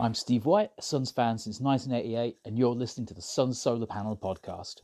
I'm Steve White, a Suns fan since 1988, and you're listening to the Suns Solar Panel podcast.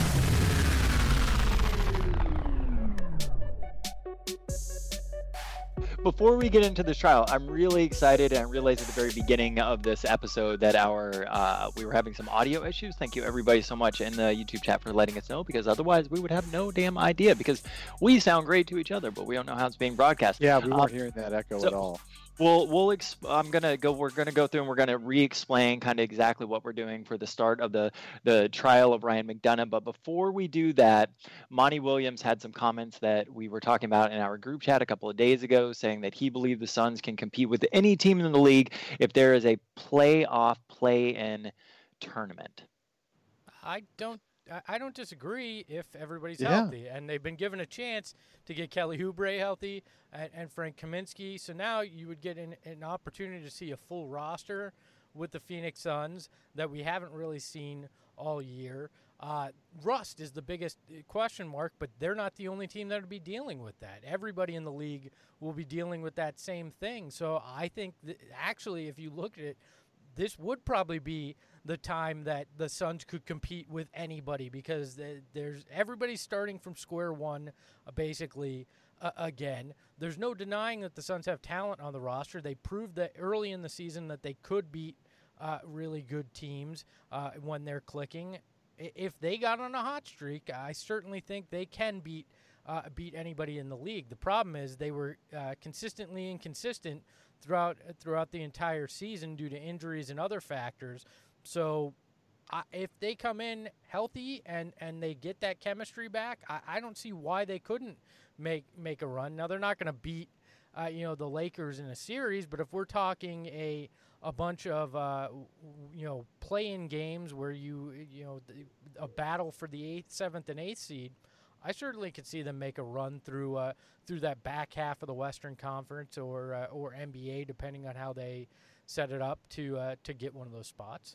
Before we get into this trial, I'm really excited, and I realized at the very beginning of this episode that we were having some audio issues. Thank you everybody so much in the YouTube chat for letting us know, because otherwise we would have no damn idea, because we sound great to each other, but we don't know how it's being broadcast. Yeah, we weren't hearing that echo at all. We're gonna go through and we're gonna re-explain kind of exactly what we're doing for the start of the trial of Ryan McDonough. But before we do that, Monty Williams had some comments that we were talking about in our group chat a couple of days ago, saying that he believed the Suns can compete with any team in the league if there is a playoff play-in tournament. I don't disagree if everybody's healthy, and they've been given a chance to get Kelly Oubre healthy and Frank Kaminsky. So now you would get an opportunity to see a full roster with the Phoenix Suns that we haven't really seen all year. Rust is the biggest question mark, but they're not the only team that will be dealing with that. Everybody in the league will be dealing with that same thing. So I think actually, if you look at it, this would probably be the time that the Suns could compete with anybody, because everybody's starting from square one, basically, again. There's no denying that the Suns have talent on the roster. They proved that early in the season that they could beat really good teams when they're clicking. If they got on a hot streak, I certainly think they can beat anybody in the league. The problem is they were consistently inconsistent throughout the entire season due to injuries and other factors. So if they come in healthy and they get that chemistry back, I don't see why they couldn't make a run. Now, they're not going to beat the Lakers in a series, but if we're talking a bunch of play-in games where a battle for the 8th, 7th, and 8th seed, I certainly could see them make a run through that back half of the Western Conference or NBA, depending on how they set it up to get one of those spots.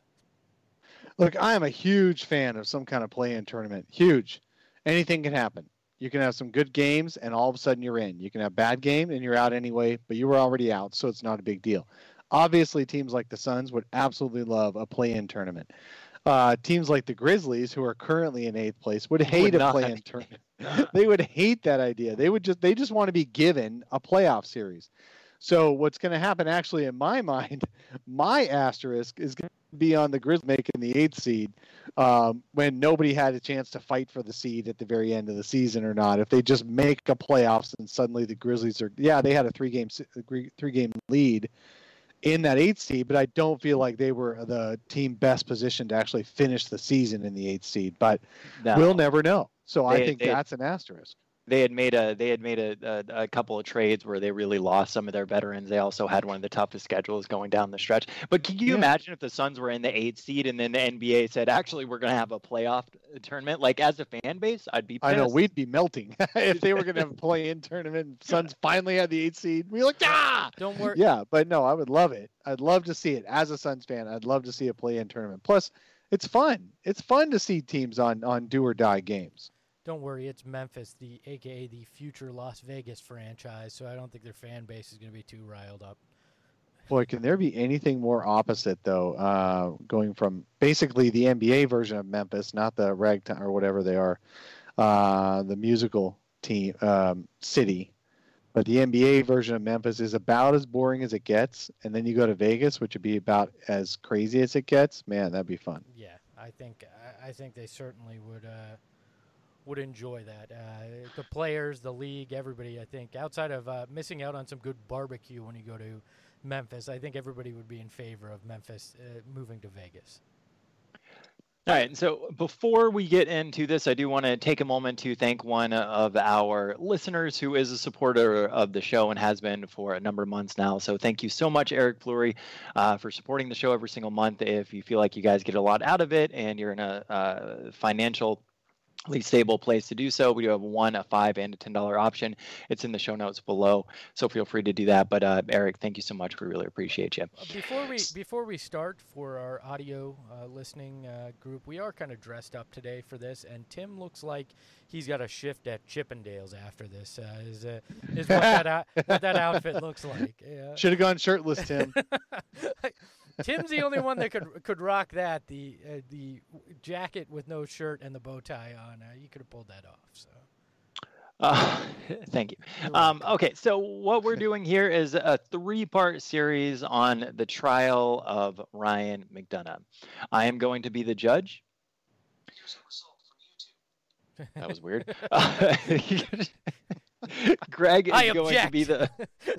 Look, I am a huge fan of some kind of play-in tournament. Huge. Anything can happen. You can have some good games, and all of a sudden you're in. You can have a bad game, and you're out anyway, but you were already out, so it's not a big deal. Obviously, teams like the Suns would absolutely love a play-in tournament. Teams like the Grizzlies, who are currently in 8th place, would hate a play-in tournament. They would hate that idea. They just want to be given a playoff series. So what's going to happen, actually, in my mind, my asterisk is going to be on the Grizzlies making the 8th seed when nobody had a chance to fight for the seed at the very end of the season or not. If they just make a playoffs and suddenly the Grizzlies they had a three-game lead in that 8th seed, but I don't feel like they were the team best positioned to actually finish the season in the 8th seed. But we'll never know. So I think that's an asterisk. They had made a couple of trades where they really lost some of their veterans. They also had one of the toughest schedules going down the stretch. But can you imagine if the Suns were in the 8th seed and then the NBA said, actually, we're going to have a playoff tournament? Like, as a fan base, I'd be pissed. I know, we'd be melting if they were going to have a play-in tournament and Suns finally had the 8th seed. We'd be like, don't worry. Yeah, but no, I would love it. I'd love to see it. As a Suns fan, I'd love to see a play-in tournament. Plus, it's fun. It's fun to see teams on do-or-die games. Don't worry, it's Memphis, aka the future Las Vegas franchise, so I don't think their fan base is going to be too riled up. Boy, can there be anything more opposite, though, going from basically the NBA version of Memphis, not the ragtime or whatever they are, the musical team city, but the NBA version of Memphis is about as boring as it gets, and then you go to Vegas, which would be about as crazy as it gets. Man, that'd be fun. Yeah, I think they certainly would enjoy that. The players, the league, everybody, I think, outside of missing out on some good barbecue when you go to Memphis, I think everybody would be in favor of Memphis moving to Vegas. All right, so before we get into this, I do want to take a moment to thank one of our listeners who is a supporter of the show and has been for a number of months now. So thank you so much, Eric Fleury, for supporting the show every single month. If you feel like you guys get a lot out of it and you're in a financial least stable place to do so. We do have a $1, a $5, and a $10 option. It's in the show notes below, so feel free to do that. But Eric, thank you so much. We really appreciate you. Before we start for our audio listening group, we are kind of dressed up today for this, and Tim looks like he's got a shift at Chippendales after this. Is what that outfit looks like. Yeah. Should have gone shirtless, Tim. Tim's the only one that could rock that. The jacket with no shirt and the bow tie on. You could have pulled that off. So. Thank you. Okay, so what we're doing here is a 3-part series on the trial of Ryan McDonough. I am going to be the judge. That was weird. Greg is going to be the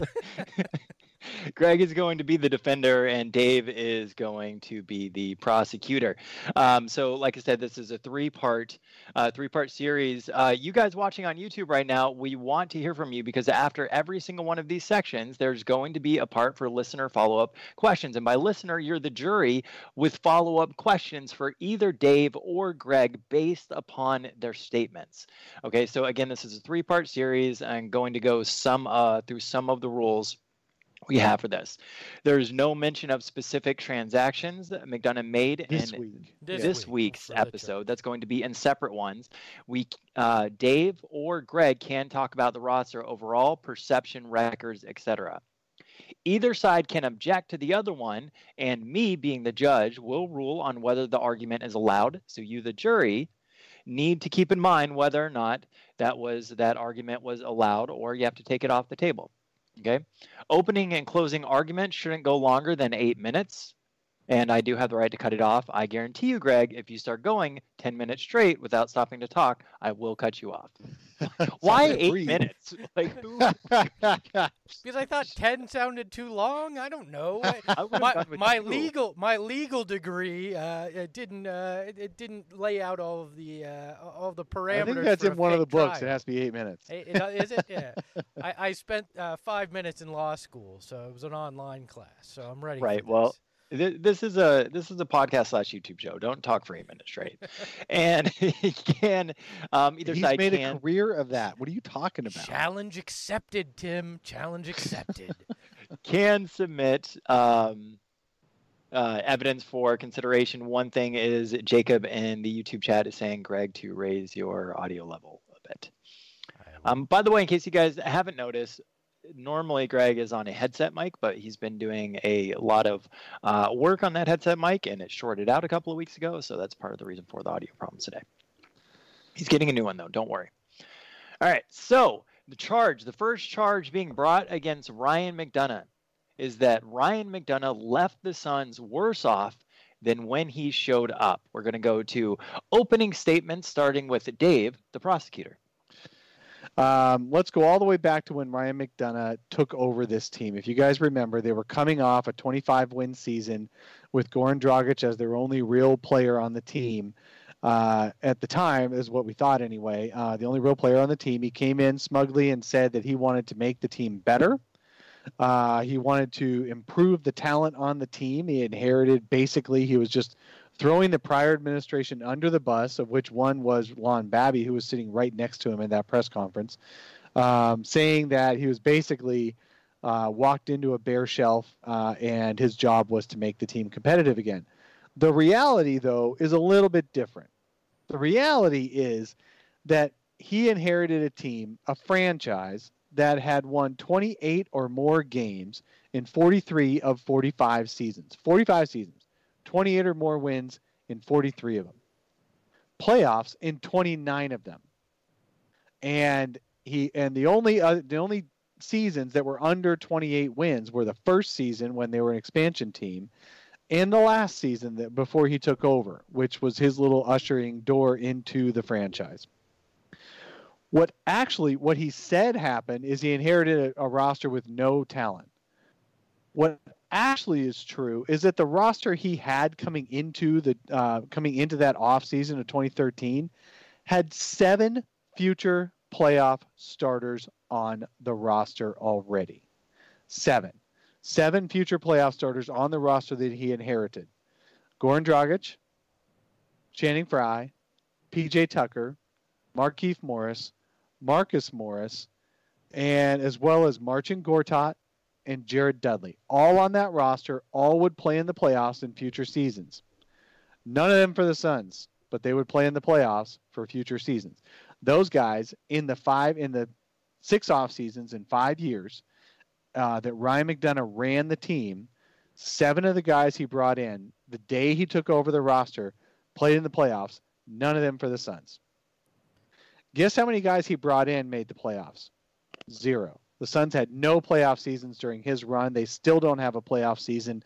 Greg is going to be the defender, and Dave is going to be the prosecutor. So, like I said, this is a 3-part series. You guys watching on YouTube right now, we want to hear from you, because after every single one of these sections, there's going to be a part for listener follow-up questions. And by listener, you're the jury with follow-up questions for either Dave or Greg based upon their statements. Okay, so again, this is a 3-part series. I'm going to go through some of the rules we have for this. There's no mention of specific transactions that McDonough made in this week's episode. That's going to be in separate ones. Dave or Greg can talk about the roster overall, perception, records, etc. Either side can object to the other one, and me, being the judge, will rule on whether the argument is allowed. So you, the jury, need to keep in mind whether or not that argument was allowed, or you have to take it off the table. Okay. Opening and closing arguments shouldn't go longer than 8 minutes. And I do have the right to cut it off. I guarantee you, Greg, if you start going 10 minutes straight without stopping to talk, I will cut you off. Why 8 minutes? Because I thought 10 sounded too long. I don't know. My legal degree it didn't lay out all of the parameters. I think that's in one of the books. It has to be 8 minutes. Is it? Yeah. I spent 5 minutes in law school, so it was an online class. So I'm ready. Right. For this. Well. This is a podcast / YouTube show. Don't talk for 8 minutes straight. And he can either He's side made can, a career of that. What are you talking about? Challenge accepted, Tim. Challenge accepted. Can submit evidence for consideration. One thing is Jacob in the YouTube chat is saying, Greg, to raise your audio level a bit. By the way, in case you guys haven't noticed, normally Greg is on a headset mic, but he's been doing a lot of work on that headset mic, and it shorted out a couple of weeks ago, so that's part of the reason for the audio problems today. He's getting a new one, though. Don't worry. All right, so the first charge being brought against Ryan McDonough is that Ryan McDonough left the Suns worse off than when he showed up. We're going to go to opening statements, starting with Dave, the prosecutor. Let's go all the way back to when Ryan McDonough took over this team. If you guys remember, they were coming off a 25-win season with Goran Dragic as their only real player on the team. At the time, is what we thought anyway, the only real player on the team. He came in smugly and said that he wanted to make the team better. He wanted to improve the talent on the team. He was just throwing the prior administration under the bus, of which one was Lon Babby, who was sitting right next to him in that press conference, saying that he was basically walked into a bare shelf and his job was to make the team competitive again. The reality, though, is a little bit different. The reality is that he inherited a team, a franchise, that had won 28 or more games in 43 of 45 seasons. 45 seasons. 28 or more wins in 43 of them. Playoffs in 29 of them. And the only seasons that were under 28 wins were the first season when they were an expansion team, and the last season before he took over, which was his little ushering door into the franchise. What he said happened is he inherited a roster with no talent. What actually is true is that the roster he had coming into that offseason of 2013 had 7 future playoff starters on the roster already. 7 future playoff starters on the roster that he inherited. Goran Dragic, Channing Frye, PJ Tucker, Markieff Morris, Marcus Morris, and as well as Marcin Gortat and Jared Dudley. All on that roster, all would play in the playoffs in future seasons. None of them for the Suns, but they would play in the playoffs for future seasons. Those guys in the 6 off seasons in 5 years that Ryan McDonough ran the team, 7 of the guys he brought in the day he took over the roster played in the playoffs. None of them for the Suns. Guess how many guys he brought in made the playoffs? 0. The Suns had no playoff seasons during his run. They still don't have a playoff season.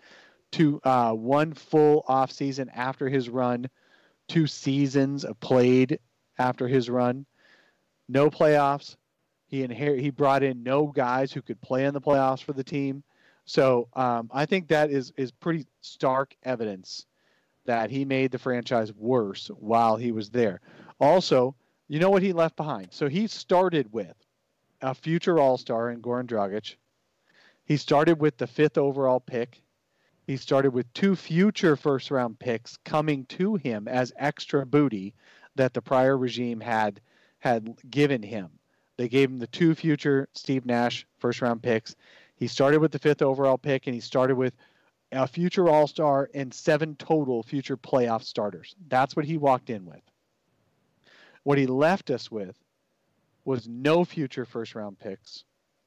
1 full off season after his run. 2 seasons of played after his run. No playoffs. He brought in no guys who could play in the playoffs for the team. So I think that is pretty stark evidence that he made the franchise worse while he was there. Also, you know what he left behind? So he started with a future All-Star in Goran Dragic. He started with the 5th overall pick. He started with 2 future first-round picks coming to him as extra booty that the prior regime had given him. They gave him the 2 future Steve Nash first-round picks. He started with the 5th overall pick, and he started with a future All-Star and 7 total future playoff starters. That's what he walked in with. What he left us with was no future first-round picks,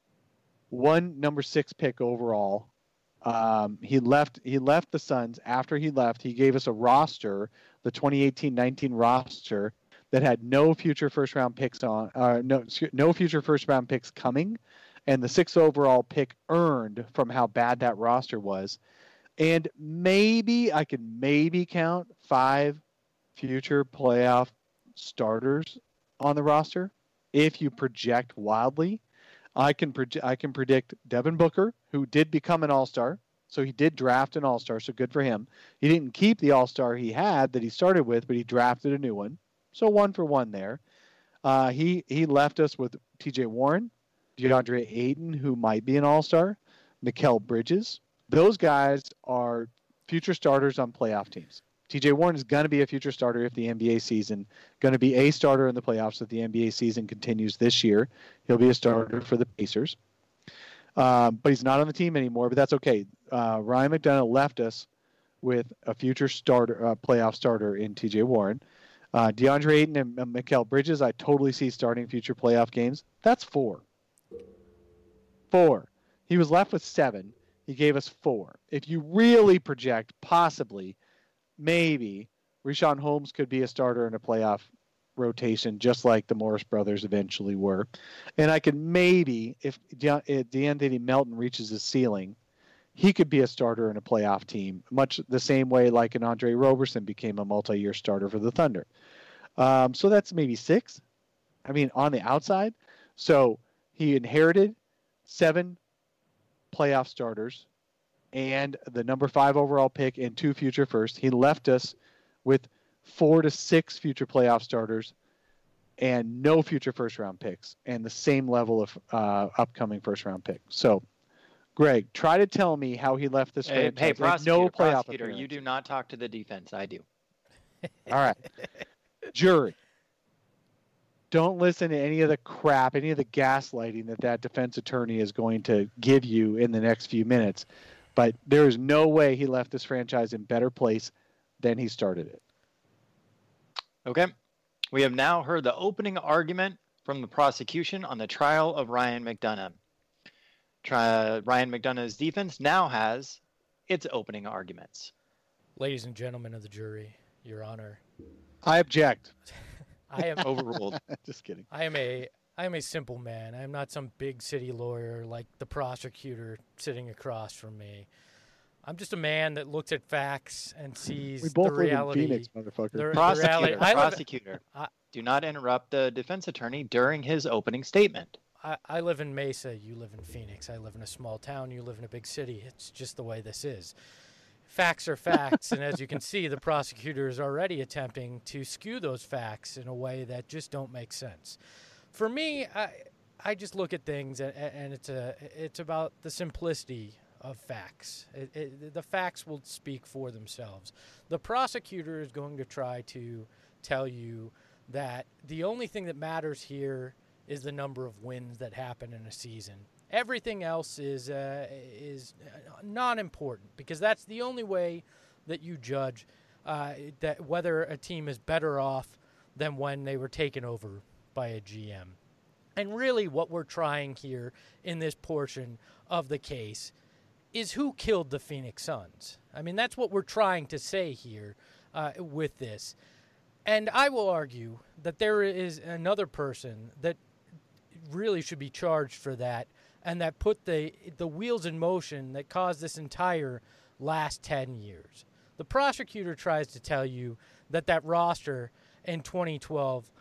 1 number 6 pick overall. He left the Suns. After he left, he gave us a roster, the 2018-19 roster, that had no future first-round picks no future first-round picks coming, and the 6th overall pick earned from how bad that roster was. And I could count 5 future playoff starters on the roster if you project wildly. I can predict Devin Booker, who did become an All-Star. So he did draft an All-Star, so good for him. He didn't keep the All-Star he had that he started with, but he drafted a new one. So 1 for 1 there. He left us with TJ Warren, DeAndre Ayton, who might be an All-Star, Mikal Bridges. Those guys are future starters on playoff teams. TJ Warren is going to be a future starter if the NBA season, going to be a starter in the playoffs if the NBA season continues this year. He'll be a starter for the Pacers. But he's not on the team anymore, but that's okay. Ryan McDonough left us with a future starter, playoff starter in TJ Warren. DeAndre Ayton and Mikal Bridges, I totally see starting future playoff games. That's 4. 4. He was left with 7. He gave us 4. If you really project, possibly, maybe, Richaun Holmes could be a starter in a playoff rotation, just like the Morris brothers eventually were. And I could maybe, if DeAnthony Melton reaches his ceiling, he could be a starter in a playoff team, much the same way like an Andre Roberson became a multi-year starter for the Thunder. So that's maybe 6. I mean, on the outside. So he inherited 7 playoff starters and the number 5 overall pick and 2 future firsts. He left us with 4 to 6 future playoff starters and no future first-round picks and the same level of upcoming first-round pick. So, Greg, try to tell me how he left this franchise. Hey, prosecutor, no playoff prosecutor, you do not talk to the defense. I do. All right. Jury. Don't listen to any of the crap, any of the gaslighting that defense attorney is going to give you in the next few minutes. But there is no way he left this franchise in better place than he started it. Okay. We have now heard the opening argument from the prosecution on the trial of Ryan McDonough. Ryan McDonough's defense now has its opening arguments. Ladies and gentlemen of the jury, Your Honor. I object. I am overruled. Just kidding. I am a simple man. I am not some big city lawyer like the prosecutor sitting across from me. I'm just a man that looks at facts and sees we both the reality. Live in Phoenix, motherfucker. Prosecutor, do not interrupt the defense attorney during his opening statement. I live in Mesa. You live in Phoenix. I live in a small town. You live in a big city. It's just the way this is. Facts are facts, and as you can see, the prosecutor is already attempting to skew those facts in a way that just don't make sense. For me, I just look at things, and it's about the simplicity of facts. The facts will speak for themselves. The prosecutor is going to try to tell you that the only thing that matters here is the number of wins that happen in a season. Everything else is non-important, because that's the only way that you judge that whether a team is better off than when they were taken over by a GM. And really what we're trying here in this portion of the case is who killed the Phoenix Suns. I mean, that's what we're trying to say here with this. And I will argue that there is another person that really should be charged for that, and that put the wheels in motion that caused this entire last 10 years. The prosecutor tries to tell you that roster in 2012,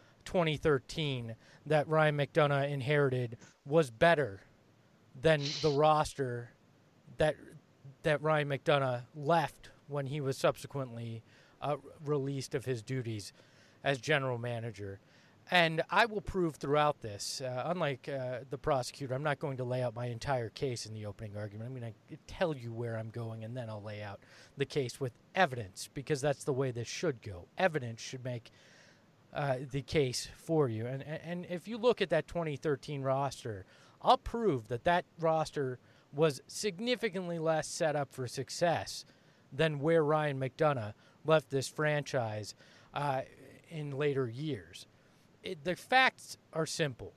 2013 that Ryan McDonough inherited was better than the roster that Ryan McDonough left when he was subsequently released of his duties as general manager. And I will prove throughout this, unlike the prosecutor, I'm not going to lay out my entire case in the opening argument. I'm going to tell you where I'm going, and then I'll lay out the case with evidence, because that's the way this should go. Evidence should make the case for you. And if you look at that 2013 roster, I'll prove that roster was significantly less set up for success than where Ryan McDonough left this franchise in later years. The facts are simple.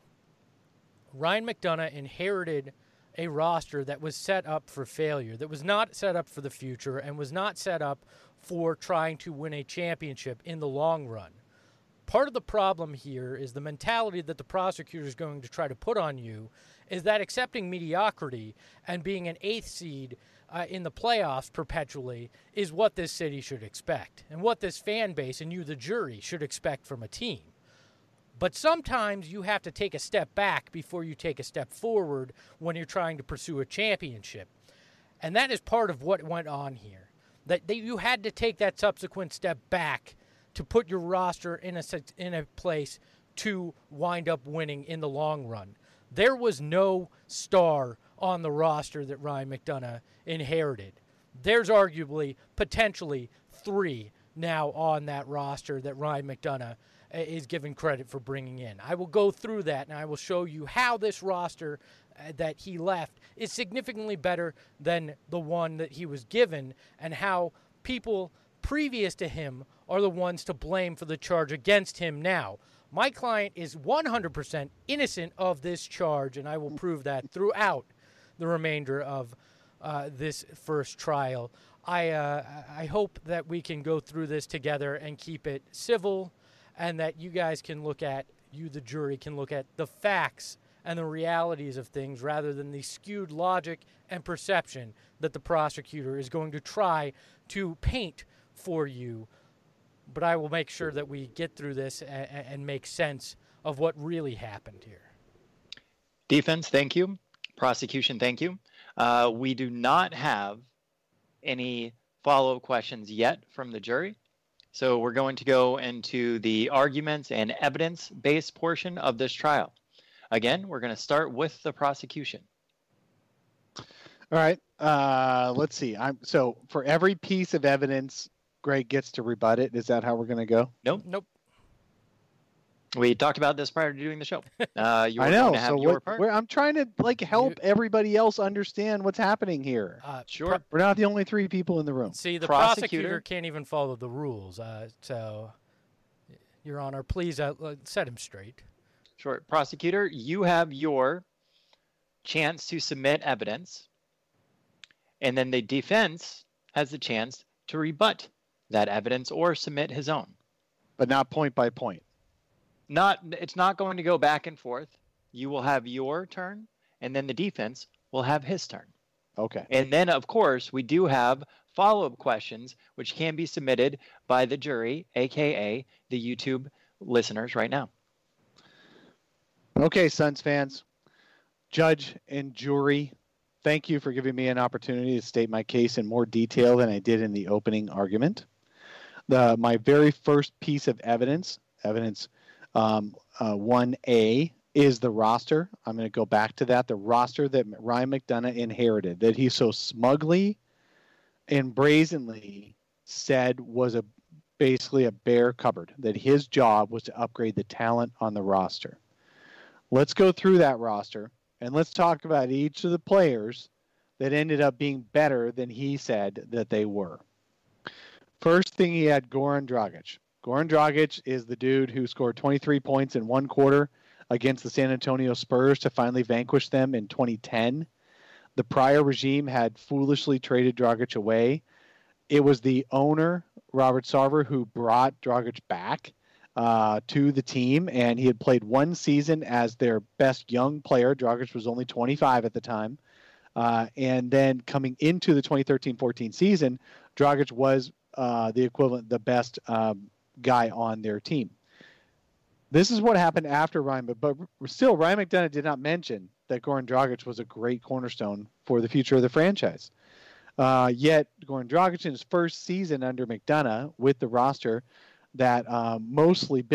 Ryan McDonough inherited a roster that was set up for failure, that was not set up for the future, and was not set up for trying to win a championship in the long run. Part of the problem here is the mentality that the prosecutor is going to try to put on you is that accepting mediocrity and being an 8th seed in the playoffs perpetually is what this city should expect, and what this fan base and you, the jury, should expect from a team. But sometimes you have to take a step back before you take a step forward when you're trying to pursue a championship. And that is part of what went on here. That you had to take that subsequent step back to put your roster in a place to wind up winning in the long run. There was no star on the roster that Ryan McDonough inherited. There's arguably, potentially, 3 now on that roster that Ryan McDonough is given credit for bringing in. I will go through that, and I will show you how this roster that he left is significantly better than the one that he was given, and how people previous to him are the ones to blame for the charge against him now. My client is 100% innocent of this charge, and I will prove that throughout the remainder of this first trial. I hope that we can go through this together and keep it civil, and that you guys can look at, you the jury can look at the facts and the realities of things rather than the skewed logic and perception that the prosecutor is going to try to paint for you. But I will make sure that we get through this and make sense of what really happened here. Defense, thank you. Prosecution, thank you. We do not have any follow-up questions yet from the jury. So we're going to go into the arguments and evidence-based portion of this trial. Again, we're going to start with the prosecution. All right. Let's see. So for every piece of evidence, Greg gets to rebut it. Is that how we're going to go? Nope. We talked about this prior to doing the show. I know. So I'm trying to help everybody else understand what's happening here. Sure. We're not the only 3 people in the room. See, the prosecutor can't even follow the rules. So, Your Honor, please set him straight. Sure. Prosecutor, you have your chance to submit evidence, and then the defense has the chance to rebut that evidence or submit his own. But not point by point. It's not going to go back and forth. You will have your turn, and then the defense will have his turn. Okay. And then, of course, we do have follow-up questions, which can be submitted by the jury, a.k.a. the YouTube listeners right now. Okay, Suns fans, judge and jury, thank you for giving me an opportunity to state my case in more detail than I did in the opening argument. My very first piece of evidence 1A, is the roster. I'm going to go back to that. The roster that Ryan McDonough inherited, that he so smugly and brazenly said was a basically a bare cupboard, that his job was to upgrade the talent on the roster. Let's go through that roster, and let's talk about each of the players that ended up being better than he said that they were. First thing, he had Goran Dragic. Goran Dragic is the dude who scored 23 points in one quarter against the San Antonio Spurs to finally vanquish them in 2010. The prior regime had foolishly traded Dragic away. It was the owner, Robert Sarver, who brought Dragic back to the team, and he had played one season as their best young player. Dragic was only 25 at the time. And then coming into the 2013-14 season, Dragic was the equivalent, the best guy on their team. This is what happened after Ryan, but still, Ryan McDonough did not mention that Goran Dragic was a great cornerstone for the future of the franchise. Yet, Goran Dragic in his first season under McDonough with the roster that mostly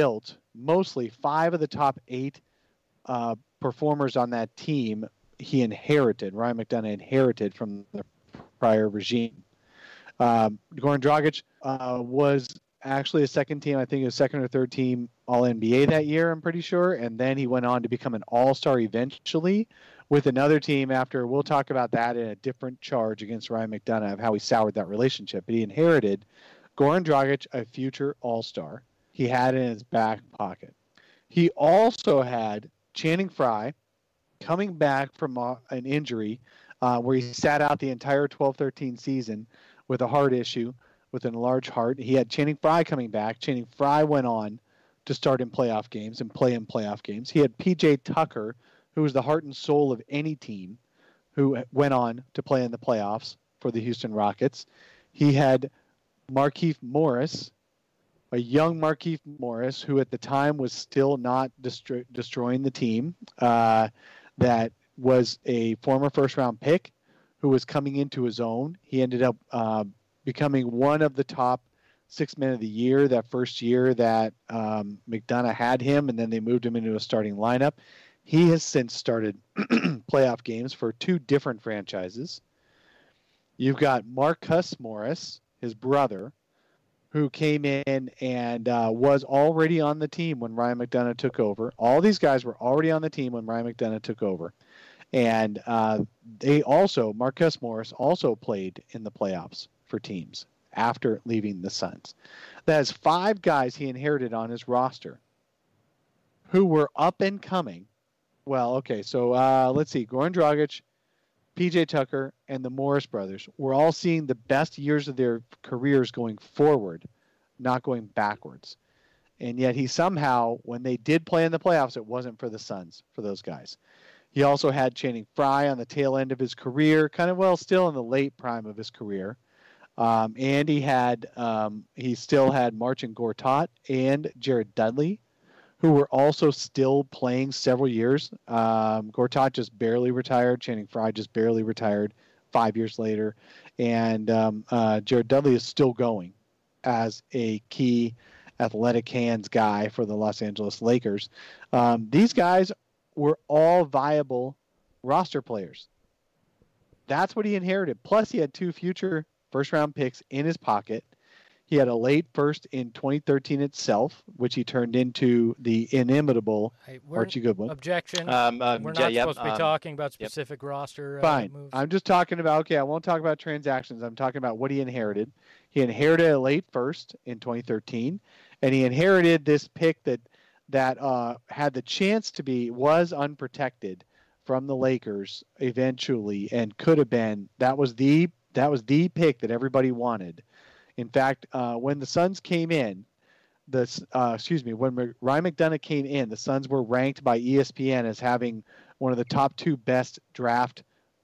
5 of the top 8 performers on that team, he inherited. Ryan McDonough inherited from the prior regime. Goran Dragic was actually a second team, I think it was second or third team All-NBA that year, I'm pretty sure. And then he went on to become an All-Star eventually with another team after. We'll talk about that in a different charge against Ryan McDonough of how he soured that relationship. But he inherited Goran Dragic, a future All-Star. He had it in his back pocket. He also had Channing Frye coming back from an injury where he sat out the entire 12-13 season with a heart issue, with an enlarged heart. He had Channing Frye coming back. Channing Frye went on to start in playoff games and play in playoff games. He had P.J. Tucker, who was the heart and soul of any team, who went on to play in the playoffs for the Houston Rockets. He had Markieff Morris, a young Markieff Morris, who at the time was still not destroying the team, that was a former first-round pick who was coming into his own. He ended up becoming one of the top 6 men of the year that first year that McDonough had him, and then they moved him into a starting lineup. He has since started playoff games for 2 different franchises. You've got Marcus Morris, his brother, who came in and was already on the team when Ryan McDonough took over. All these guys were already on the team when Ryan McDonough took over. And Marcus Morris also played in the playoffs for teams after leaving the Suns. That is 5 guys he inherited on his roster who were up and coming. Well, okay, so let's see. Goran Dragic, P.J. Tucker, and the Morris brothers were all seeing the best years of their careers going forward, not going backwards. And yet he somehow, when they did play in the playoffs, it wasn't for the Suns, for those guys. He also had Channing Frye on the tail end of his career, still in the late prime of his career. And he still had Marcin Gortat and Jared Dudley, who were also still playing several years. Gortat just barely retired. Channing Frye just barely retired 5 years later. And Jared Dudley is still going as a key athletic hands guy for the Los Angeles Lakers. These guys were all viable roster players. That's what he inherited. Plus, he had 2 future first-round picks in his pocket. He had a late first in 2013 itself, which he turned into the inimitable Archie Goodwin. Objection. We're not supposed to be talking about specific roster Fine. moves. I'm just talking about, I won't talk about transactions. I'm talking about what he inherited. He inherited a late first in 2013, and he inherited this pick that had the chance to was unprotected from the Lakers eventually, and could have been. That was the pick that everybody wanted. In fact, when the Suns came in, when Ryan McDonough came in, the Suns were ranked by ESPN as having one of the top 2 best draft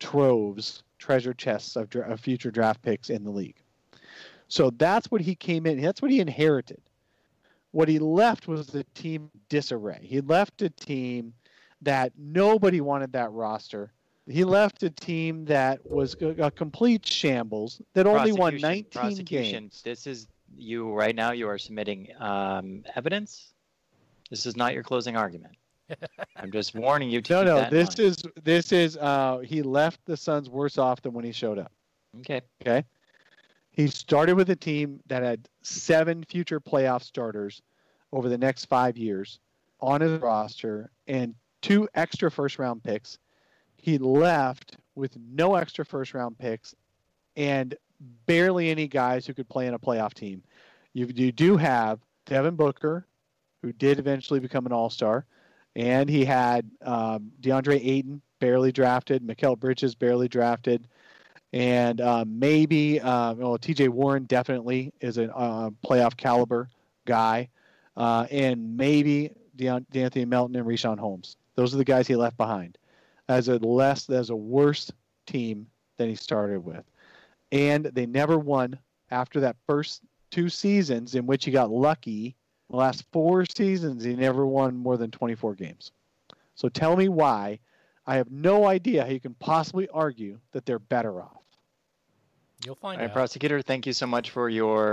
treasure chests of future draft picks in the league. So that's what he came in. That's what he inherited. What he left was the team disarray. He left a team that nobody wanted that roster. He left a team that was a complete shambles, that only won 19 games. This is you right now. You are submitting evidence. This is not your closing argument. I'm just warning you to keep that in mind. This is he left the Suns worse off than when he showed up. Okay. He started with a team that had 7 future playoff starters over the next 5 years on his roster and 2 extra first-round picks. He left with no extra first-round picks and barely any guys who could play in a playoff team. You do have Devin Booker, who did eventually become an all-star, and he had DeAndre Ayton, barely drafted, Mikal Bridges, barely drafted, and maybe TJ Warren definitely is a playoff caliber guy, and maybe D'Anthony Melton and Richaun Holmes. Those are the guys he left behind as a worse team than he started with. And they never won after that first 2 seasons in which he got lucky. The last 4 seasons, he never won more than 24 games. So tell me why. I have no idea how you can possibly argue that they're better off. You'll find All out. right, prosecutor, thank you so much for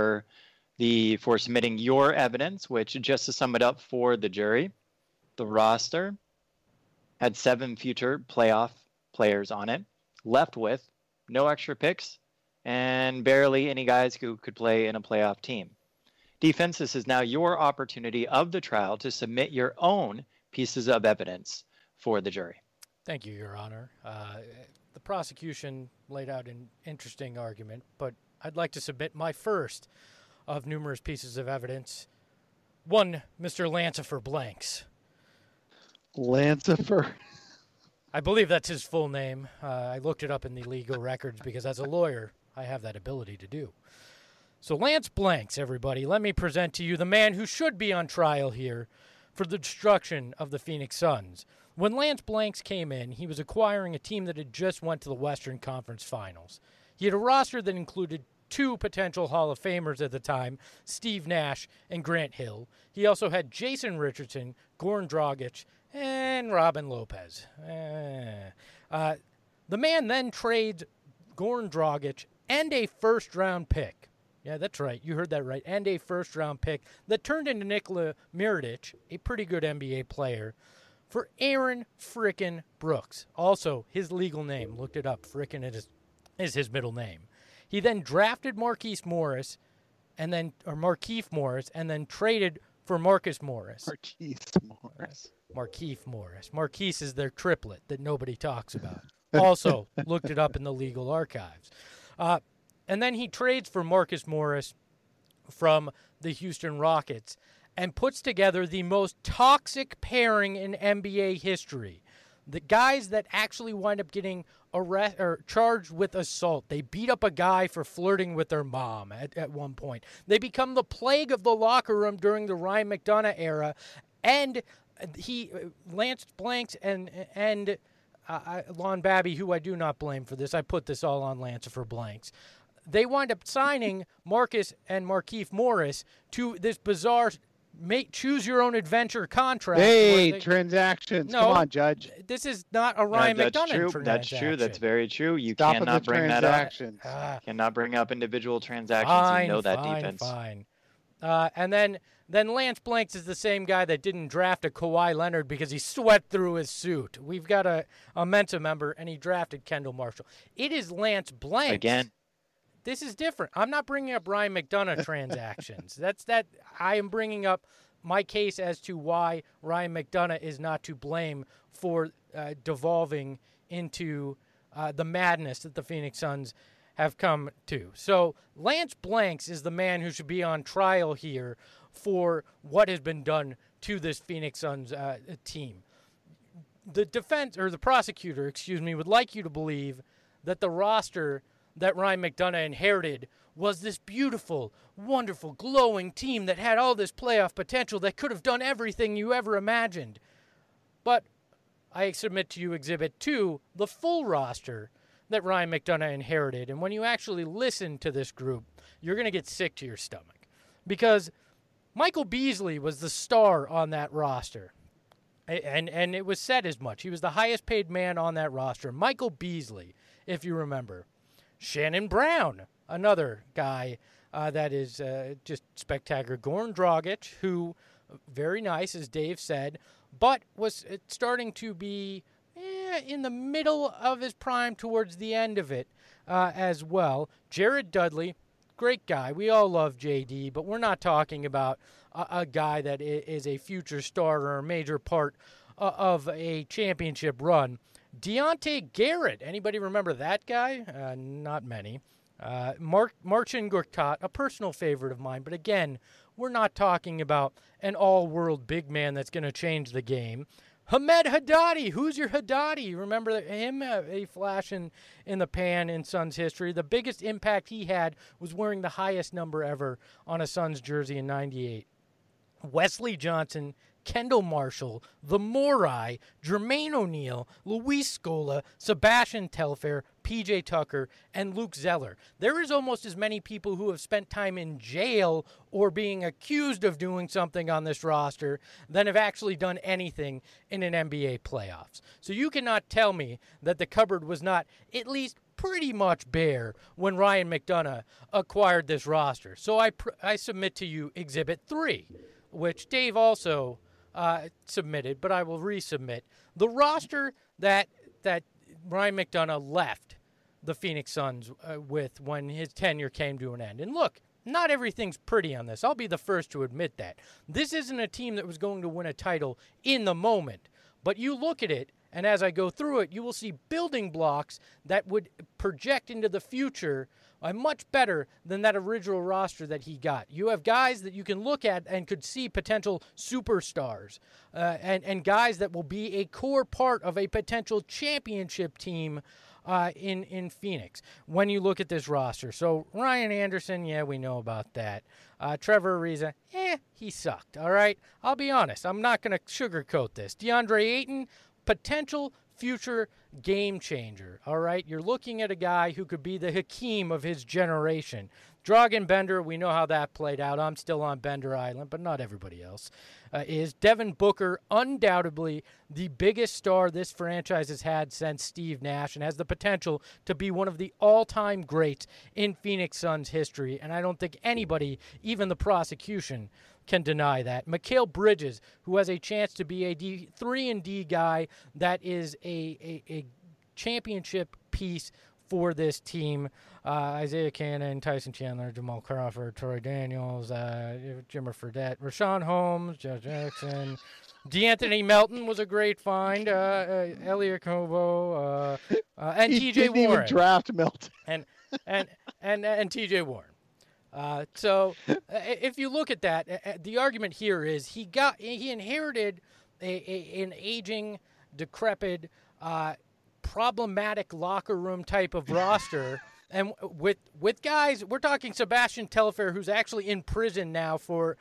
for submitting your evidence, which, just to sum it up for the jury, the roster had 7 future playoff players on it, left with no extra picks and barely any guys who could play in a playoff team. Defense, this is now your opportunity of the trial to submit your own pieces of evidence for the jury. Thank you, Your Honor. The prosecution laid out an interesting argument, but I'd like to submit my first of numerous pieces of evidence. One, Mr. Lancifer Blanks. Lancifer. I believe that's his full name. I looked it up in the legal records because as a lawyer, I have that ability to do. So Lance Blanks, everybody, let me present to you the man who should be on trial here for the destruction of the Phoenix Suns. When Lance Blanks came in, he was acquiring a team that had just went to the Western Conference Finals. He had a roster that included 2 potential Hall of Famers at the time, Steve Nash and Grant Hill. He also had Jason Richardson, Goran Dragic, and Robin Lopez. The man then trades Goran Dragic and a first-round pick. Yeah, that's right. You heard that right. And a first-round pick that turned into Nikola Mirotic, a pretty good NBA player, for Aaron frickin' Brooks. Also, his legal name. Looked it up. Frickin' is his middle name. He then drafted Markieff Morris, and then traded for Marcus Morris. Markieff Morris. Marquise is their triplet that nobody talks about. Also, looked it up in the legal archives. And then he trades for Marcus Morris from the Houston Rockets and puts together the most toxic pairing in NBA history. The guys that actually wind up getting charged with assault. They beat up a guy for flirting with their mom at one point. They become the plague of the locker room during the Ryan McDonough era. And Lance Blanks and Lon Babby, who I do not blame for this. I put this all on Lancifer Blanks. They wind up signing Marcus and Markieff Morris to this bizarre choose-your-own-adventure contract. Hey, transactions. No, come on, Judge. This is not a Ryan McDonough transaction. That's true. That's very true. You Stop cannot bring that up. Cannot bring up individual transactions. Fine, you know that fine, defense. Fine. And then Lance Blanks is the same guy that didn't draft a Kawhi Leonard because he sweat through his suit. We've got a Mensa member, and he drafted Kendall Marshall. It is Lance Blanks. Again. This is different. I'm not bringing up Ryan McDonough transactions. I am bringing up my case as to why Ryan McDonough is not to blame for devolving into the madness that the Phoenix Suns have come to. So Lance Blanks is the man who should be on trial here for what has been done to this Phoenix Suns team. The prosecutor, would like you to believe that the roster that Ryan McDonough inherited was this beautiful, wonderful, glowing team that had all this playoff potential that could have done everything you ever imagined. But I submit to you Exhibit 2, the full roster that Ryan McDonough inherited. And when you actually listen to this group, you're going to get sick to your stomach. Because Michael Beasley was the star on that roster. And it was said as much. He was the highest paid man on that roster. Michael Beasley, if you remember. Shannon Brown, another guy that is just spectacular. Goran Dragic, who, very nice, as Dave said, but was starting to be in the middle of his prime towards the end of it as well. Jared Dudley, great guy. We all love JD, but we're not talking about a guy that is a future starter or a major part of a championship run. Deontay Garrett. Anybody remember that guy? Not many. Marcin Gortat, a personal favorite of mine, but again, we're not talking about an all-world big man that's going to change the game. Hamed Haddadi. Who's your Haddadi? Remember him? A flash in the pan in Suns history. The biggest impact he had was wearing the highest number ever on a Suns jersey in '98. Wesley Johnson, Kendall Marshall, the Morai, Jermaine O'Neal, Luis Scola, Sebastian Telfair, PJ Tucker, and Luke Zeller. There is almost as many people who have spent time in jail or being accused of doing something on this roster than have actually done anything in an NBA playoffs. So you cannot tell me that the cupboard was not at least pretty much bare when Ryan McDonough acquired this roster. So I submit to you Exhibit 3, which Dave also submitted, but I will resubmit. The roster that Ryan McDonough left the Phoenix Suns with when his tenure came to an end. And look, not everything's pretty on this. I'll be the first to admit that. This isn't a team that was going to win a title in the moment. But you look at it, and as I go through it, you will see building blocks that would project into the future much better than that original roster that he got. You have guys that you can look at and could see potential superstars and guys that will be a core part of a potential championship team in Phoenix when you look at this roster. So Ryan Anderson, yeah, we know about that. Trevor Ariza, he sucked, all right? I'll be honest. I'm not going to sugarcoat this. DeAndre Ayton, potential future game changer, all right? You're looking at a guy who could be the Hakeem of his generation. Dragan Bender, we know how that played out. I'm still on Bender Island, but not everybody else is. Devin Booker, undoubtedly the biggest star this franchise has had since Steve Nash and has the potential to be one of the all-time greats in Phoenix Suns history, and I don't think anybody, even the prosecution, can deny that. Mikal Bridges, who has a chance to be a 3-and-D guy that is a championship piece for this team. Isaiah Cannon, Tyson Chandler, Jamal Crawford, Troy Daniels, Jimmer Fredette, Rashawn Holmes, Josh Jackson, DeAnthony Melton was a great find. Elliot Kobo, and T.J. Warren. Even draft Melton. And T.J. Warren. So if you look at that, the argument here is he inherited an aging, decrepit, problematic locker room type of roster. And with guys, we're talking Sebastian Telfair, who's actually in prison now for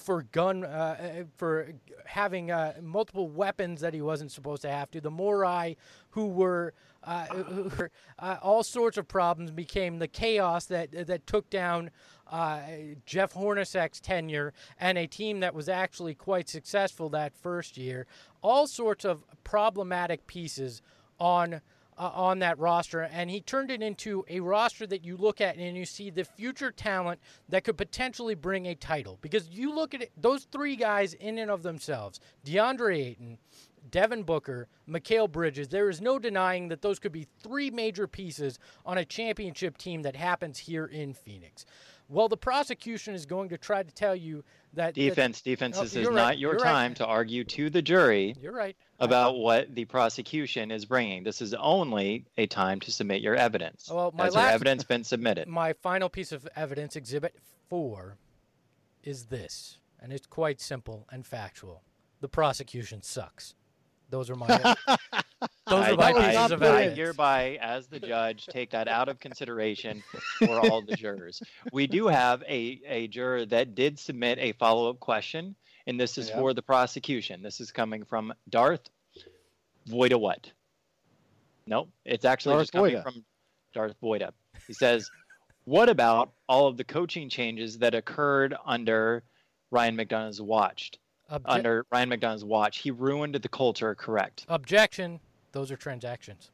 having multiple weapons that he wasn't supposed to have to. The Morai, who were all sorts of problems, became the chaos that took down Jeff Hornacek's tenure and a team that was actually quite successful that first year. All sorts of problematic pieces on that roster, and he turned it into a roster that you look at and you see the future talent that could potentially bring a title. Because you look at it, those three guys in and of themselves, DeAndre Ayton, Devin Booker, Mikal Bridges, there is no denying that those could be three major pieces on a championship team that happens here in Phoenix. Well, the prosecution is going to try to tell you that... Defense, this is not your time to argue to the jury about what the prosecution is bringing. This is only a time to submit your evidence. Well, Has your evidence been submitted? My final piece of evidence, Exhibit 4, is this, and it's quite simple and factual. The prosecution sucks. Those are my pieces of evidence. I hereby, as the judge, take that out of consideration for all the jurors. We do have a juror that did submit a follow-up question, and this is for the prosecution. This is coming from Darth Voida what? Nope, it's actually just coming from Darth Voida. He says, what about all of the coaching changes that occurred under Ryan McDonough's watch? Under Ryan McDonough's watch, he ruined the culture, correct? Objection. Those are transactions.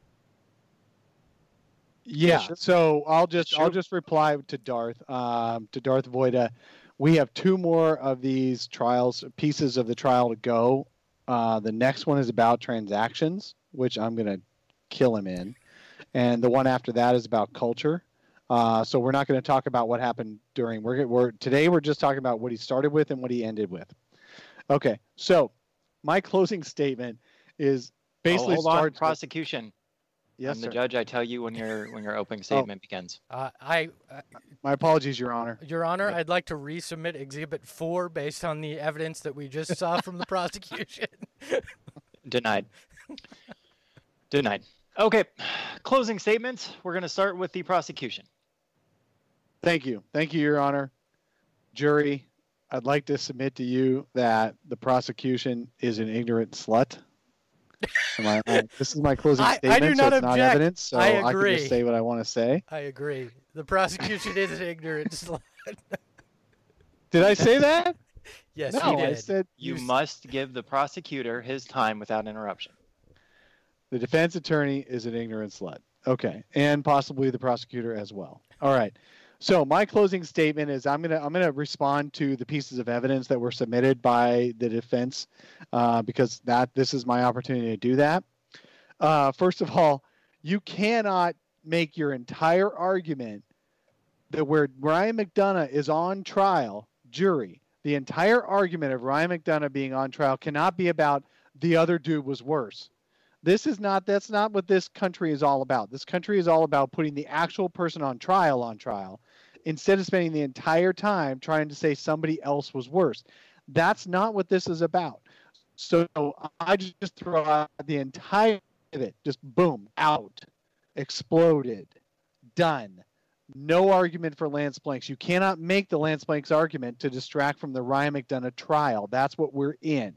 Yeah. So I'll just reply to Darth Voida. We have two more of these pieces of the trial to go. The next one is about transactions, which I'm going to kill him in. And the one after that is about culture. So we're not going to talk about what happened during. Today we're just talking about what he started with and what he ended with. Okay, so my closing statement is basically hold on, starts prosecution. Yes, I'm the sir. judge. I tell you when your opening statement begins. My apologies, Your Honor. Your Honor, I'd like to resubmit Exhibit 4 based on the evidence that we just saw from the prosecution. Denied. Denied. Okay, closing statements. We're going to start with the prosecution. Thank you. Thank you, Your Honor. Jury, I'd like to submit to you that the prosecution is an ignorant slut. This is my closing statement. I do not so it's object. not evidence, so I can agree. just say what I want to say. I agree. The prosecution is an ignorant slut. Did I say that? Yes, No, he did. I said You must give the prosecutor his time without interruption. the defense attorney is an ignorant slut. Okay, and possibly the prosecutor as well. All right. So my closing statement is I'm gonna respond to the pieces of evidence that were submitted by the defense because this is my opportunity to do that. First of all, you cannot make your entire argument that where Ryan McDonough is on trial, jury, the entire argument of Ryan McDonough being on trial cannot be about the other dude was worse. That's not what this country is all about. This country is all about putting the actual person on trial instead of spending the entire time trying to say somebody else was worse. That's not what this is about. So I just throw out the entire of it, just boom, out, exploded, done. No argument for Lance Blanks. You cannot make the Lance Blanks argument to distract from the Ryan McDonough trial. That's what we're in.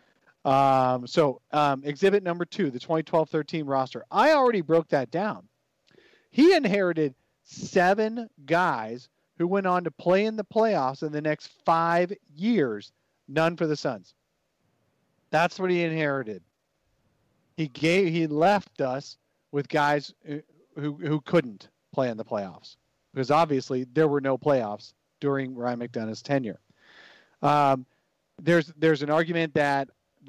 Exhibit number 2, the 2012-13 roster. I already broke that down. He inherited 7 guys who went on to play in the playoffs in the next 5 years. None for the Suns. That's what he inherited. He left us with guys who couldn't play in the playoffs because obviously there were no playoffs during Ryan McDonough's tenure. There's an argument that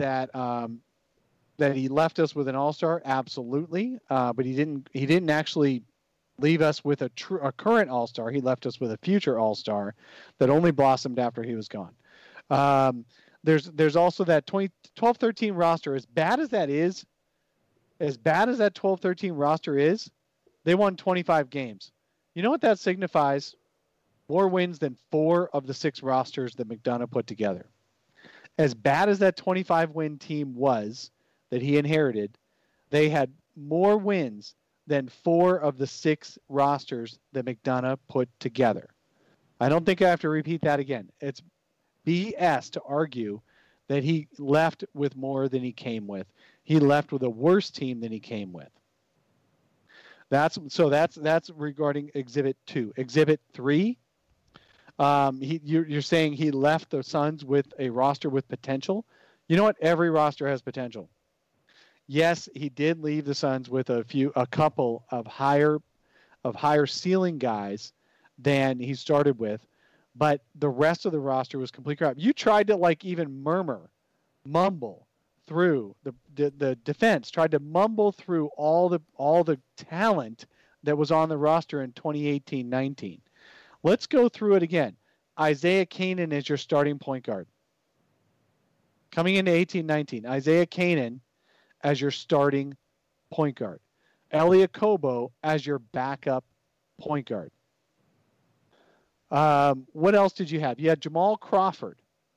he left us with an all-star, absolutely, but he didn't actually leave us with a current all-star. He left us with a future all-star that only blossomed after he was gone. There's also that 12-13 roster. As bad as that 12-13 roster is, they won 25 games. You know what that signifies? More wins than 4 of the 6 rosters that McDonough put together. As bad as that 25-win team was that he inherited, they had more wins than 4 of the 6 rosters that McDonough put together. I don't think I have to repeat that again. It's BS to argue that he left with more than he came with. He left with a worse team than he came with. That's regarding Exhibit 2. Exhibit 3, you're saying he left the Suns with a roster with potential. You know what? Every roster has potential. Yes, he did leave the Suns with a couple of higher ceiling guys than he started with, but the rest of the roster was complete crap. You tried to even mumble through the defense, tried to mumble through all the talent that was on the roster in 2018-19. Let's go through it again. Isaiah Canaan is your starting point guard. Coming into 18-19, Isaiah Canaan as your starting point guard. Elliot Kobo as your backup point guard. What else did you have? You had Jamal Crawford,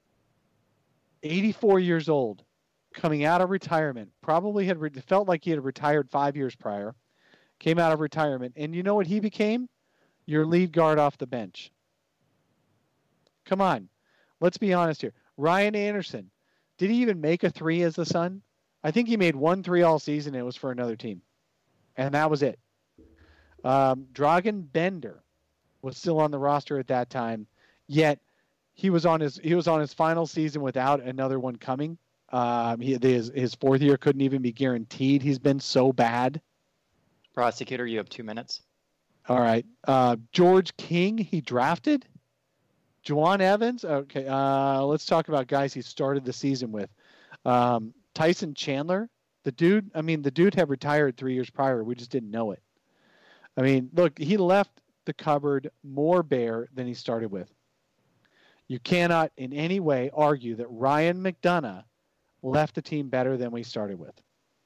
84 years old, coming out of retirement. Probably felt like he had retired 5 years prior. Came out of retirement. And you know what he became? Your lead guard off the bench. Come on. Let's be honest here. Ryan Anderson. Did he even make a 3 as the Sun? I think he made 1 3 all season. It was for another team. And that was it. Dragan Bender was still on the roster at that time. Yet he was on his final season without another one coming. His 4th year couldn't even be guaranteed. He's been so bad. Prosecutor, you have 2 minutes. All right. George King, he drafted. Juwan Evans. Okay. Let's talk about guys he started the season with. Tyson Chandler. The dude had retired 3 years prior. We just didn't know it. I mean, look, he left the cupboard more bare than he started with. You cannot in any way argue that Ryan McDonough left the team better than we started with.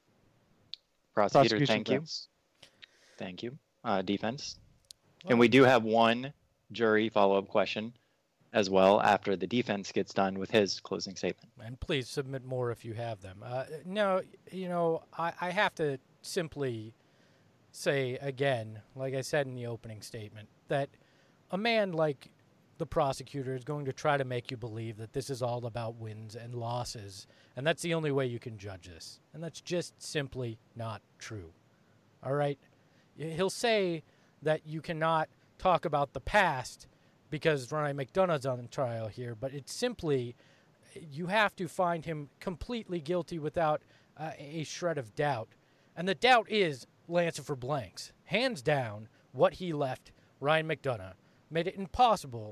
Prosecutor, thank you. Thank you. Defense. And we do have one jury follow-up question as well after the defense gets done with his closing statement. And please submit more if you have them. No, I have to simply say again, like I said in the opening statement, that a man like the prosecutor is going to try to make you believe that this is all about wins and losses, and that's the only way you can judge this. And that's just simply not true. All right? He'll say that you cannot talk about the past because Ryan McDonough's on trial here, but it's simply, you have to find him completely guilty without a shred of doubt. And the doubt is Lancer for blanks. Hands down, what he left Ryan McDonough made it impossible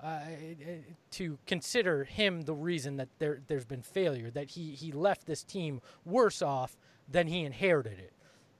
to consider him the reason that there's been failure, that he left this team worse off than he inherited it.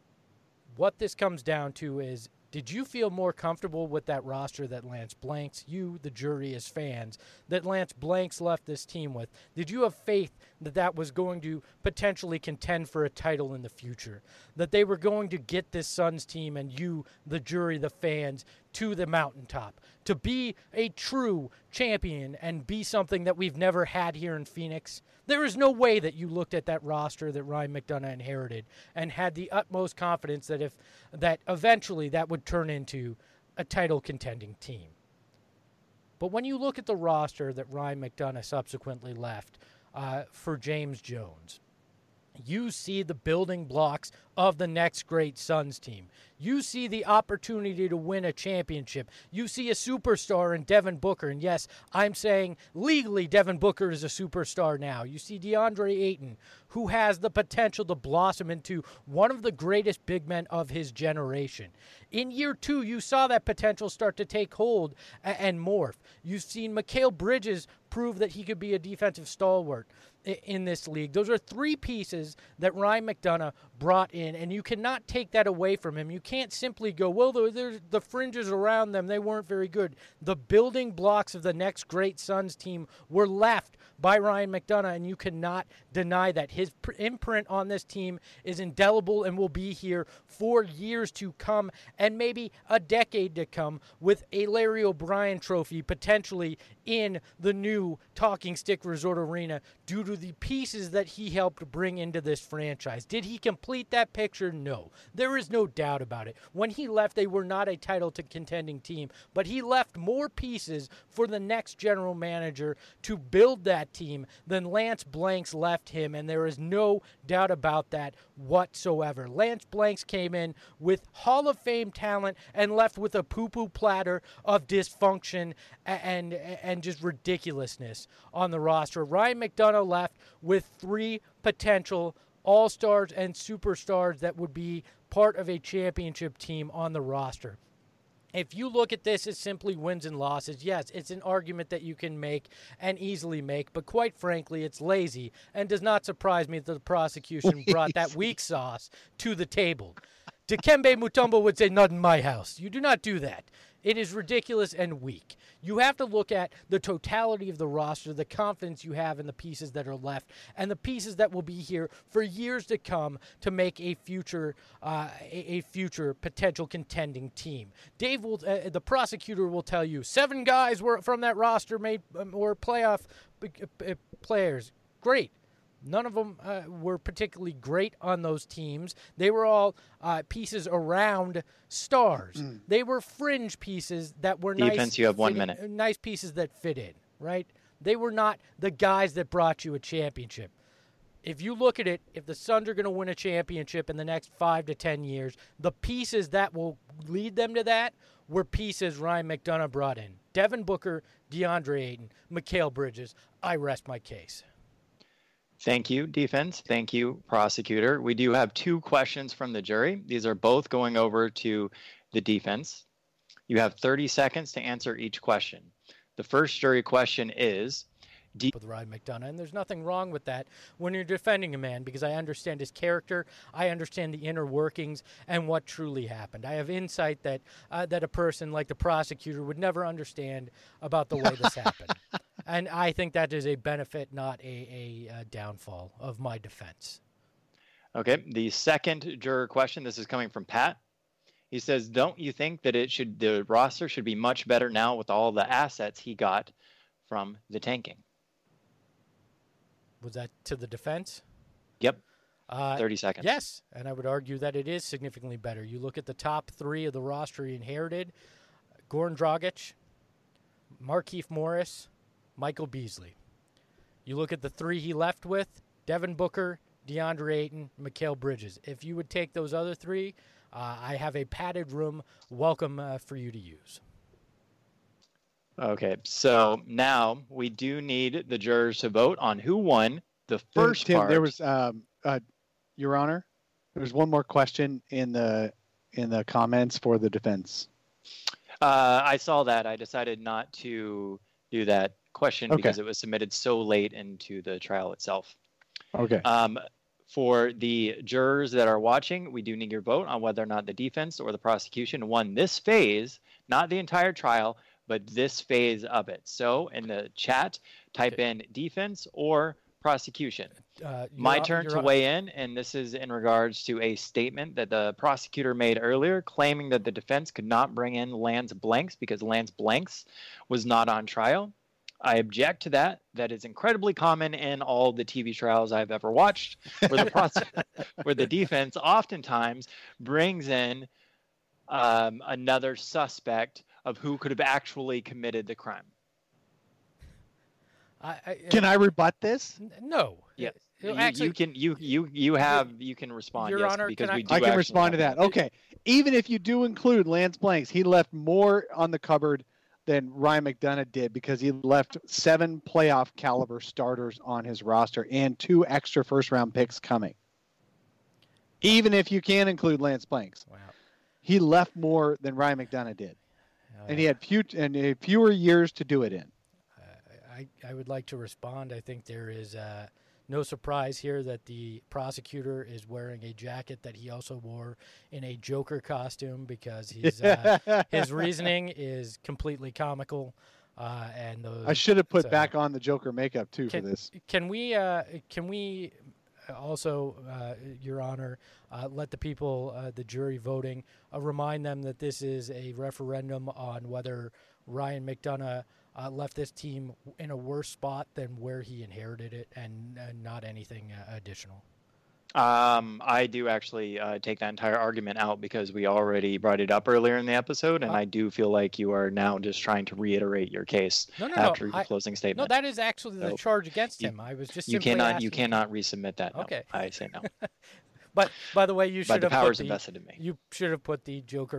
What this comes down to is, did you feel more comfortable with that roster that Lance Blanks, you, the jury, as fans, that Lance Blanks left this team with? Did you have faith that that was going to potentially contend for a title in the future? That they were going to get this Suns team and you, the jury, the fans, to the mountaintop? To be a true champion and be something that we've never had here in Phoenix? There is no way that you looked at that roster that Ryan McDonough inherited and had the utmost confidence that eventually that would turn into a title contending team. But when you look at the roster that Ryan McDonough subsequently left for James Jones, you see the building blocks of the next great Suns team. You see the opportunity to win a championship. You see a superstar in Devin Booker. And yes, I'm saying legally Devin Booker is a superstar now. You see DeAndre Ayton, who has the potential to blossom into one of the greatest big men of his generation. In year 2, you saw that potential start to take hold and morph. You've seen Mikal Bridges prove that he could be a defensive stalwart in this league. Those are 3 pieces that Ryan McDonough brought in, and you cannot take that away from him. You can't simply go, well, there's the fringes around them, they weren't very good. The building blocks of the next great Suns team were left by Ryan McDonough, and you cannot deny that. His imprint on this team is indelible and will be here for years to come and maybe a decade to come, with a Larry O'Brien trophy potentially in the new Talking Stick Resort Arena due to the pieces that he helped bring into this franchise. Did he complete that picture? No. There is no doubt about it. When he left, they were not a title to contending team, but he left more pieces for the next general manager to build that team than Lance Blanks left him, and there is no doubt about that whatsoever. Lance Blanks came in with Hall of Fame talent and left with a poo-poo platter of dysfunction and just ridiculousness on the roster. Ryan McDonough left with 3 potential all-stars and superstars that would be part of a championship team on the roster. If you look at this as simply wins and losses, yes, it's an argument that you can make and easily make, but quite frankly, it's lazy and does not surprise me that the prosecution brought that weak sauce to the table. Dikembe Mutombo would say, not in my house. You do not do that. It is ridiculous and weak. You have to look at the totality of the roster, the confidence you have in the pieces that are left, and the pieces that will be here for years to come to make a future potential contending team. Dave will, the prosecutor will tell you, 7 guys were from that roster were playoff players. Great. None of them were particularly great on those teams. They were all pieces around stars. They were fringe pieces that were Defense, nice. you have 1 minute. Nice pieces that fit in, right? They were not the guys that brought you a championship. If you look at it, if the Suns are going to win a championship in the next 5 to 10 years, the pieces that will lead them to that were pieces Ryan McDonough brought in. Devin Booker, DeAndre Ayton, Mikal Bridges. I rest my case. Thank you, defense. Thank you, prosecutor. We do have 2 questions from the jury. These are both going over to the defense. You have 30 seconds to answer each question. The first jury question is, with Ryan McDonough, and there's nothing wrong with that when you're defending a man, because I understand his character, I understand the inner workings and what truly happened. I have insight that that a person like the prosecutor would never understand about the way this happened. And I think that is a benefit, not a downfall of my defense. Okay, the second juror question, this is coming from Pat. He says, don't you think that the roster should be much better now with all the assets he got from the tanking? Was that to the defense? Yep. 30 seconds. Yes, and I would argue that it is significantly better. You look at the top three of the roster he inherited: Goran Dragic, Markieff Morris, Michael Beasley. You look at the three he left with: Devin Booker, DeAndre Ayton, Mikal Bridges. If you would take those other three, I have a padded room welcome for you to use. Okay, so now we do need the jurors to vote on who won the first Tim, part. there was, Your Honor, there was one more question in the comments for the defense. I saw that. I decided not to do that question because it was submitted so late into the trial itself. Okay. For the jurors that are watching, we do need your vote on whether or not the defense or the prosecution won this phase, not the entire trial, but this phase of it. So in the chat, type in defense or prosecution. My turn to weigh in, and this is in regards to a statement that the prosecutor made earlier, claiming that the defense could not bring in Lance Blanks because Lance Blanks was not on trial. I object to that. That is incredibly common in all the TV trials I've ever watched, where the defense oftentimes brings in another suspect of who could have actually committed the crime. Can I rebut this? No. Yes. Actually, you can respond. Your Honor, because I can respond to that. Okay. Even if you do include Lance Blanks, he left more on the cupboard than Ryan McDonough did, because he left 7 playoff caliber starters on his roster and 2 extra first round picks coming. Even if you can include Lance Blanks. Wow. He left more than Ryan McDonough did. And he had fewer years to do it in. I would like to respond. I think there is no surprise here that the prosecutor is wearing a jacket that he also wore in a Joker costume, because his reasoning is completely comical. I should have put back on the Joker makeup too for this. Can we also, Your Honor, let the people, the jury voting, remind them that this is a referendum on whether Ryan McDonough left this team in a worse spot than where he inherited it, and not anything additional. I do actually take that entire argument out, because we already brought it up earlier in the episode, and I do feel like you are now just trying to reiterate your case after your closing statement. No, that is actually the charge against him. I was just you cannot resubmit that. No. Okay, I say no. But by the way, you should have powers invested in me. You should have put the Joker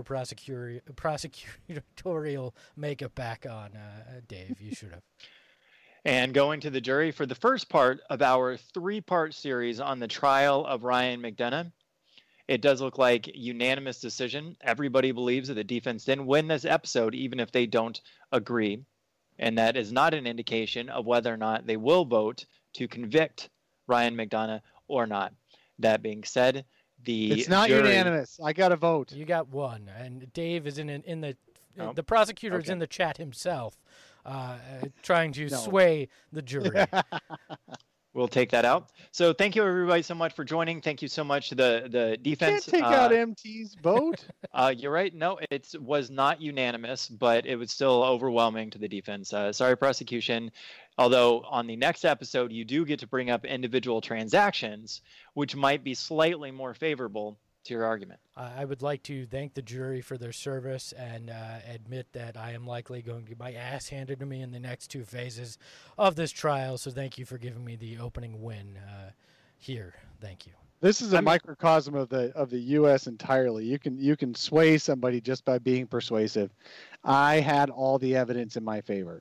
prosecutorial makeup back on, Dave. You should have. And going to the jury for the first part of our 3-part series on the trial of Ryan McDonough, it does look like unanimous decision. Everybody believes that the defense didn't win this episode, even if they don't agree. And that is not an indication of whether or not they will vote to convict Ryan McDonough or not. That being said, it's not unanimous. I got a vote. You got one, and Dave is in the prosecutor is in the chat himself, trying to sway the jury. We'll take that out. So thank you everybody so much for joining. Thank you so much to the defense. You can't take out MT's vote. You're right. No, it was not unanimous, but it was still overwhelming to the defense. Sorry, prosecution. Although on the next episode, you do get to bring up individual transactions, which might be slightly more favorable to your argument. I would like to thank the jury for their service and admit that I am likely going to get my ass handed to me in the next 2 phases of this trial. So thank you for giving me the opening win here. Thank you. This is a microcosm of the U.S. entirely. You can sway somebody just by being persuasive. I had all the evidence in my favor.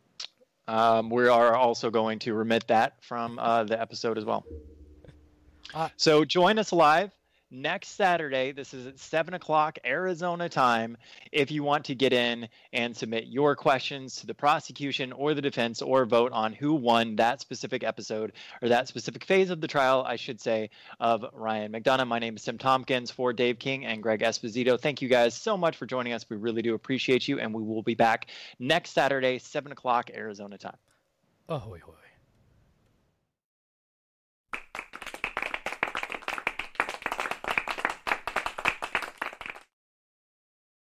We are also going to remit that from the episode as well. So join us live next Saturday. This is at 7 o'clock Arizona time. If you want to get in and submit your questions to the prosecution or the defense, or vote on who won that specific episode, or that specific phase of the trial, I should say, of Ryan McDonough. My name is Tim Tompkins for Dave King and Greg Esposito. Thank you guys so much for joining us. We really do appreciate you, and we will be back next Saturday, 7 o'clock Arizona time. Ahoy, hoy.